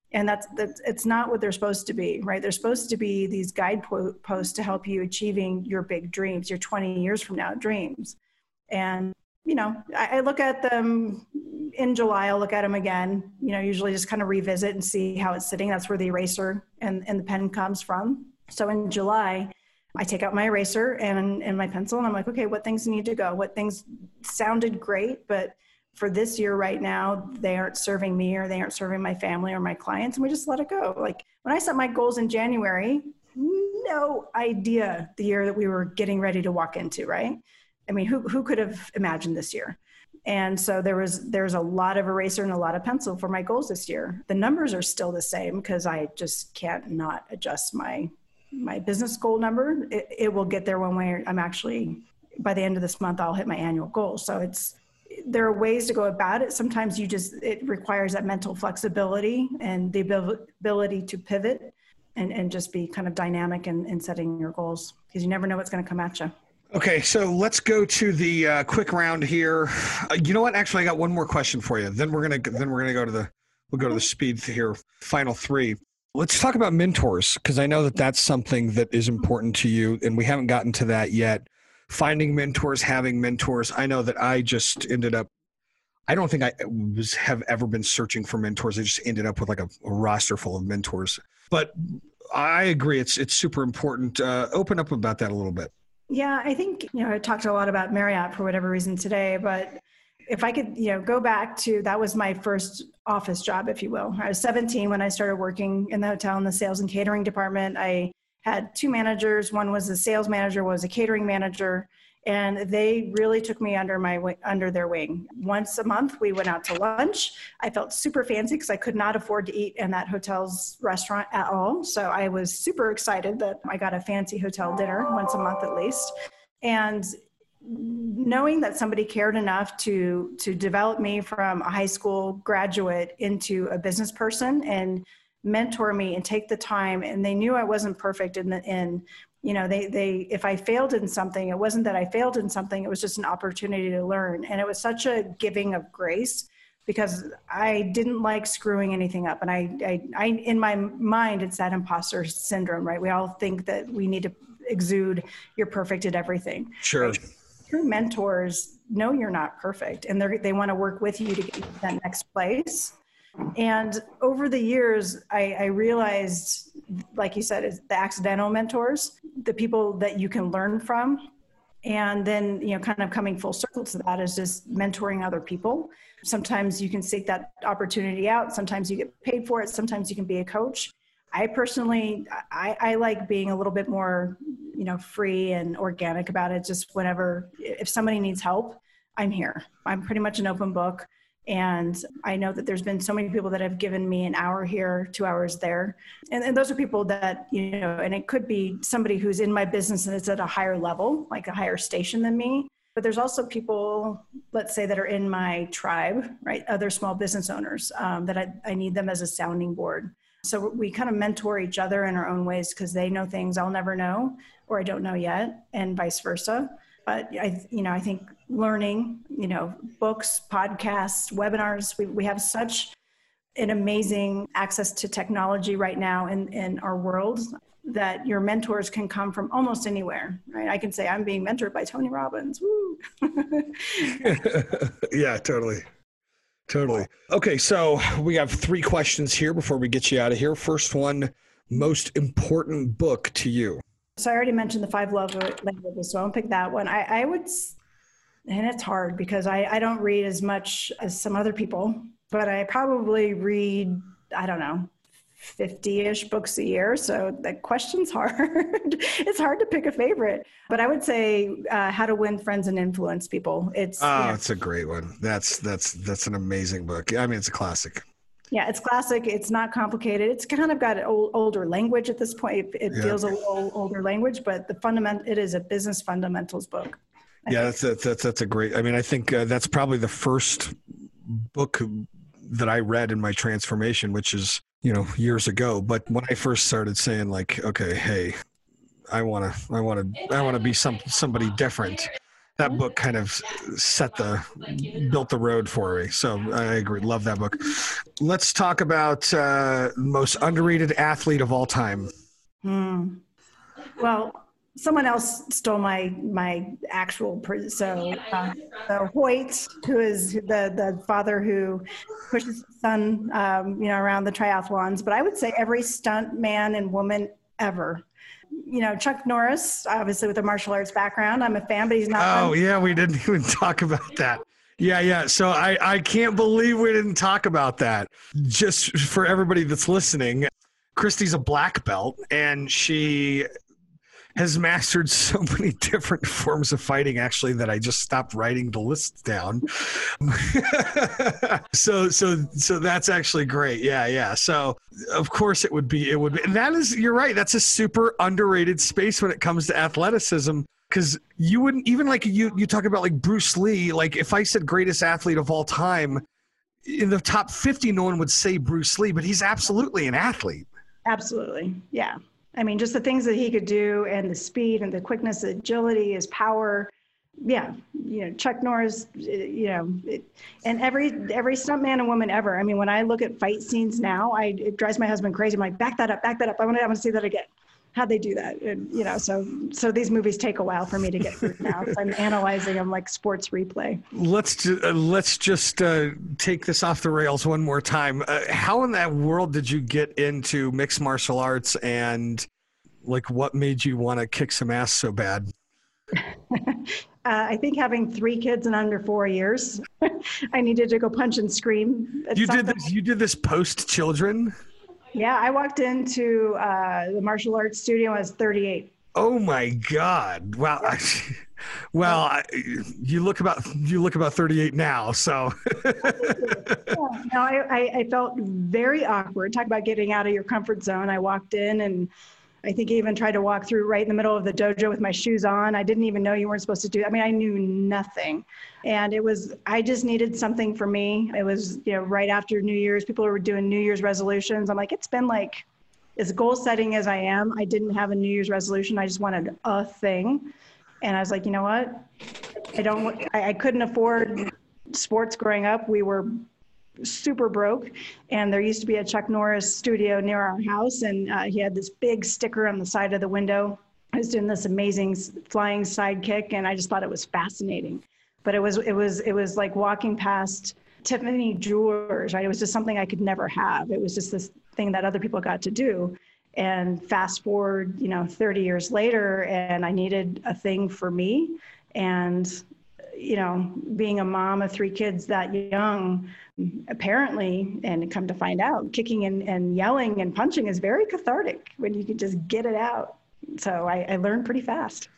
[SPEAKER 3] And that's, that's, it's not what they're supposed to be, right? They're supposed to be these guideposts to help you achieving your big dreams, your twenty years from now dreams. And, you know, I, I look at them in July, I'll look at them again, you know, usually just kind of revisit and see how it's sitting. That's where the eraser and, and the pen comes from. So in July, I take out my eraser and, and my pencil and I'm like, okay, what things need to go? What things sounded great, but for this year right now, they aren't serving me or they aren't serving my family or my clients, and we just let it go. Like when I set my goals in January, no idea the year that we were getting ready to walk into, right? I mean, who who could have imagined this year? And so there was there's a lot of eraser and a lot of pencil for my goals this year. The numbers are still the same because I just can't not adjust my my business goal number. It, it will get there one way. I'm actually, by the end of this month, I'll hit my annual goal. So it's, there are ways to go about it. Sometimes you just, it requires that mental flexibility and the ability to pivot and, and just be kind of dynamic in, in setting your goals, because you never know what's going to come at you.
[SPEAKER 1] Okay, so let's go to the uh, quick round here. Uh, you know what? Actually, I got one more question for you. Then we're gonna then we're gonna go to the we'll go to the speed here. Final three. Let's talk about mentors, because I know that that's something that is important to you, and we haven't gotten to that yet. Finding mentors, having mentors. I know that I just ended up, I don't think I was have ever been searching for mentors. I just ended up with like a, a roster full of mentors. But I agree, it's it's super important. Uh, open up about that a little bit.
[SPEAKER 3] Yeah, I think, you know, I talked a lot about Marriott for whatever reason today, but if I could, you know, go back to, that was my first office job, if you will. I was seventeen when I started working in the hotel in the sales and catering department. I had two managers. One was a sales manager, one was a catering manager, and they really took me under my under their wing. Once a month, we went out to lunch. I felt super fancy because I could not afford to eat in that hotel's restaurant at all. So I was super excited that I got a fancy hotel dinner once a month at least. And knowing that somebody cared enough to to develop me from a high school graduate into a business person and mentor me and take the time, and they knew I wasn't perfect in the in you know they they if I failed in something, it wasn't that I failed in something, it was just an opportunity to learn. And it was such a giving of grace, because I didn't like screwing anything up. And I I, I in my mind, it's that imposter syndrome, right? We all think that we need to exude you're perfect at everything.
[SPEAKER 1] Sure.
[SPEAKER 3] Right? True mentors know you're not perfect, and they they want to work with you to get you to that next place. And over the years, I, I realized, like you said, is the accidental mentors, the people that you can learn from. And then, you know, kind of coming full circle to that is just mentoring other people. Sometimes you can seek that opportunity out. Sometimes you get paid for it. Sometimes you can be a coach. I personally, I, I like being a little bit more, you know, free and organic about it. Just whenever, if somebody needs help, I'm here. I'm pretty much an open book. And I know that there's been so many people that have given me an hour here, two hours there. And, and those are people that, you know, and it could be somebody who's in my business and it's at a higher level, like a higher station than me. But there's also people, let's say, that are in my tribe, right? Other small business owners um, that I, I need them as a sounding board. So we kind of mentor each other in our own ways, because they know things I'll never know, or I don't know yet, and vice versa. But I, you know, I think learning, you know, books, podcasts, webinars, we, we have such an amazing access to technology right now in, in our world that your mentors can come from almost anywhere, right? I can say I'm being mentored by Tony Robbins. Woo.
[SPEAKER 1] Yeah, totally. Totally. Okay, so we have three questions here before we get you out of here. First one, most important book to you.
[SPEAKER 3] So I already mentioned the five love languages, so I won't pick that one. I, I would, and it's hard because I, I don't read as much as some other people, but I probably read, I don't know, fifty-ish books a year. So the question's hard. It's hard to pick a favorite, but I would say uh, How to Win Friends and Influence People. It's
[SPEAKER 1] Oh,
[SPEAKER 3] you know,
[SPEAKER 1] it's a great one. That's, that's, that's an amazing book. I mean, it's a classic.
[SPEAKER 3] Yeah, it's classic. It's not complicated. It's kind of got an old, older language at this point. It, it
[SPEAKER 1] Yeah.
[SPEAKER 3] feels a little older language, but the fundament, it is a business fundamentals book. I
[SPEAKER 1] Yeah,
[SPEAKER 3] think.
[SPEAKER 1] that's, that's, that's a great, I mean, I think uh, that's probably the first book that I read in my transformation, which is, you know, years ago. But when I first started saying like, okay, hey, I want to, I want to, I want to be some, somebody different. that book kind of set the, built the road for me. So I agree. Love that book. Let's talk about uh, most underrated athlete of all time.
[SPEAKER 3] Hmm. Well, someone else stole my my actual pr- so uh, so Hoyt, who is the the father who pushes his son, um, you know, around the triathlons. But I would say every stunt man and woman ever. You know, Chuck Norris, obviously with a martial arts background. I'm a fan, but he's not.
[SPEAKER 1] Oh yeah, we didn't even talk about that. Yeah, yeah. So I I can't believe we didn't talk about that. Just for everybody that's listening, Christy's a black belt, and she has mastered so many different forms of fighting, actually, that I just stopped writing the list down. so, so, so that's actually great. Yeah, yeah. So, of course, it would be, it would be, and that is, you're right. That's a super underrated space when it comes to athleticism, because you wouldn't even like you. You talk about like Bruce Lee. Like, if I said greatest athlete of all time, in the top fifty, no one would say Bruce Lee, but he's absolutely an athlete.
[SPEAKER 3] Absolutely, yeah. I mean, just the things that he could do, and the speed and the quickness, the agility, his power. Yeah, you know, Chuck Norris, you know, it, and every every stuntman and woman ever. I mean, when I look at fight scenes now, I it drives my husband crazy. I'm like, back that up, back that up. I want to, I want to see that again. How'd they do that? And, you know, so so these movies take a while for me to get through now. So I'm analyzing them like sports replay.
[SPEAKER 1] Let's ju- uh, let's just uh, take this off the rails one more time. Uh, how in that world did you get into mixed martial arts, and like what made you want to kick some ass so bad?
[SPEAKER 3] uh, I think having three kids in under four years, I needed to go punch and scream.
[SPEAKER 1] You something. did this. You did this post children.
[SPEAKER 3] Yeah, I walked into uh, the martial arts studio when I was thirty-eight.
[SPEAKER 1] Oh my God! Wow. I, well, I, you look about you look about thirty-eight now. So.
[SPEAKER 3] yeah, no, I, I felt very awkward. Talk about getting out of your comfort zone. I walked in, and I think I even tried to walk through right in the middle of the dojo with my shoes on. I didn't even know you weren't supposed to do. I mean, I knew nothing. And it was, I just needed something for me. It was, you know, right after New Year's, people were doing New Year's resolutions. I'm like, it's been like, as goal setting as I am, I didn't have a New Year's resolution. I just wanted a thing. And I was like, you know what? I don't, I, I couldn't afford sports growing up. We were super broke, and there used to be a Chuck Norris studio near our house, and uh, he had this big sticker on the side of the window. I was doing this amazing flying sidekick, and I just thought it was fascinating. But it was it was it was like walking past Tiffany Jewelers, right? It was just something I could never have. It was just this thing that other people got to do. And fast forward, you know, thirty years later, and I needed a thing for me. And you know, being a mom of three kids that young, apparently, and come to find out, kicking and, and yelling and punching is very cathartic when you can just get it out. So I, I learned pretty fast.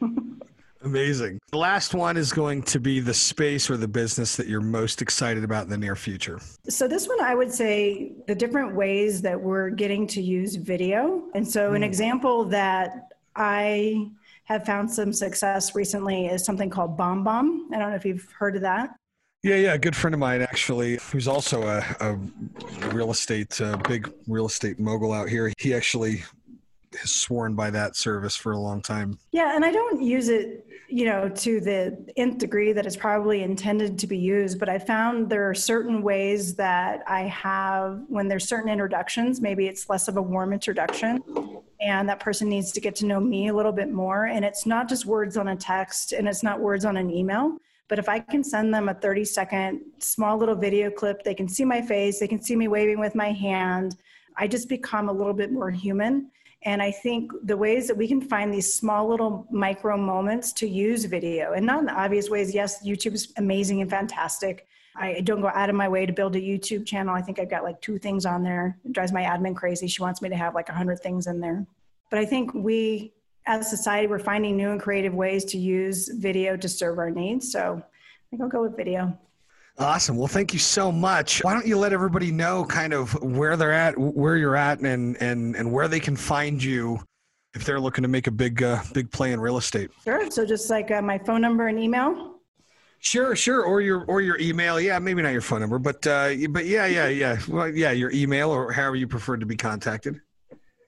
[SPEAKER 1] Amazing. The last one is going to be the space or the business that you're most excited about in the near future.
[SPEAKER 3] So this one, I would say the different ways that we're getting to use video. And so mm. an example that I have found some success recently is something called BombBomb. I don't know if you've heard of that.
[SPEAKER 1] Yeah, yeah. A good friend of mine, actually, who's also a, a real estate, a big real estate mogul out here. He actually has sworn by that service for a long time.
[SPEAKER 3] Yeah, and I don't use it, you know, to the nth degree that it's probably intended to be used, but I found there are certain ways that I have, when there's certain introductions, maybe it's less of a warm introduction, and that person needs to get to know me a little bit more. And it's not just words on a text, and it's not words on an email, but if I can send them a thirty second small little video clip, they can see my face, they can see me waving with my hand, I just become a little bit more human. And I think the ways that we can find these small little micro moments to use video, and not in obvious ways. Yes, YouTube is amazing and fantastic. I don't go out of my way to build a YouTube channel. I think I've got like two things on there. It drives my admin crazy. She wants me to have like a hundred things in there. But I think we, as a society, we're finding new and creative ways to use video to serve our needs. So I think I'll go with video.
[SPEAKER 1] Awesome. Well, thank you so much. Why don't you let everybody know kind of where they're at, where you're at, and and and where they can find you if they're looking to make a big uh, big play in real estate.
[SPEAKER 3] Sure. So just like uh, my phone number and email.
[SPEAKER 1] Sure, sure. Or your or your email. Yeah, maybe not your phone number, but uh, but yeah, yeah, yeah. Well, yeah, your email or however you prefer to be contacted.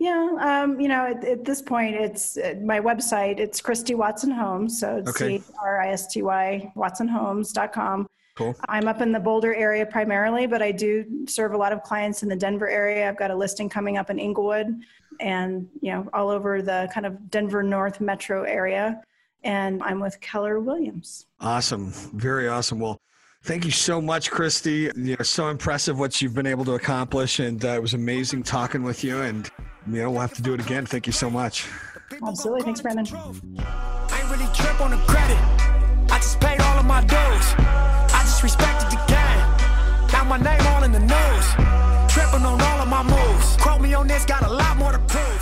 [SPEAKER 3] Yeah, um, you know, at, at this point, it's uh, my website. It's Christy Watson Homes, so it's
[SPEAKER 1] Okay.
[SPEAKER 3] C R I S T Y Watson Homes dot com.
[SPEAKER 1] Cool.
[SPEAKER 3] I'm up in the Boulder area primarily, but I do serve a lot of clients in the Denver area. I've got a listing coming up in Inglewood, and you know, all over the kind of Denver North metro area. And I'm with Keller Williams.
[SPEAKER 1] Awesome, very awesome. Well, thank you so much, Christy. You know, so impressive what you've been able to accomplish, and uh, it was amazing talking with you. And you know, we'll have to do it again. Thank you so much.
[SPEAKER 3] Absolutely. Thanks, Brandon.
[SPEAKER 2] I ain't really trip on the credit. I just paid all of my dues. I just respected the game. Now my name all in the news. Tripping on all of my moves. Quote me on this, got a lot more to prove.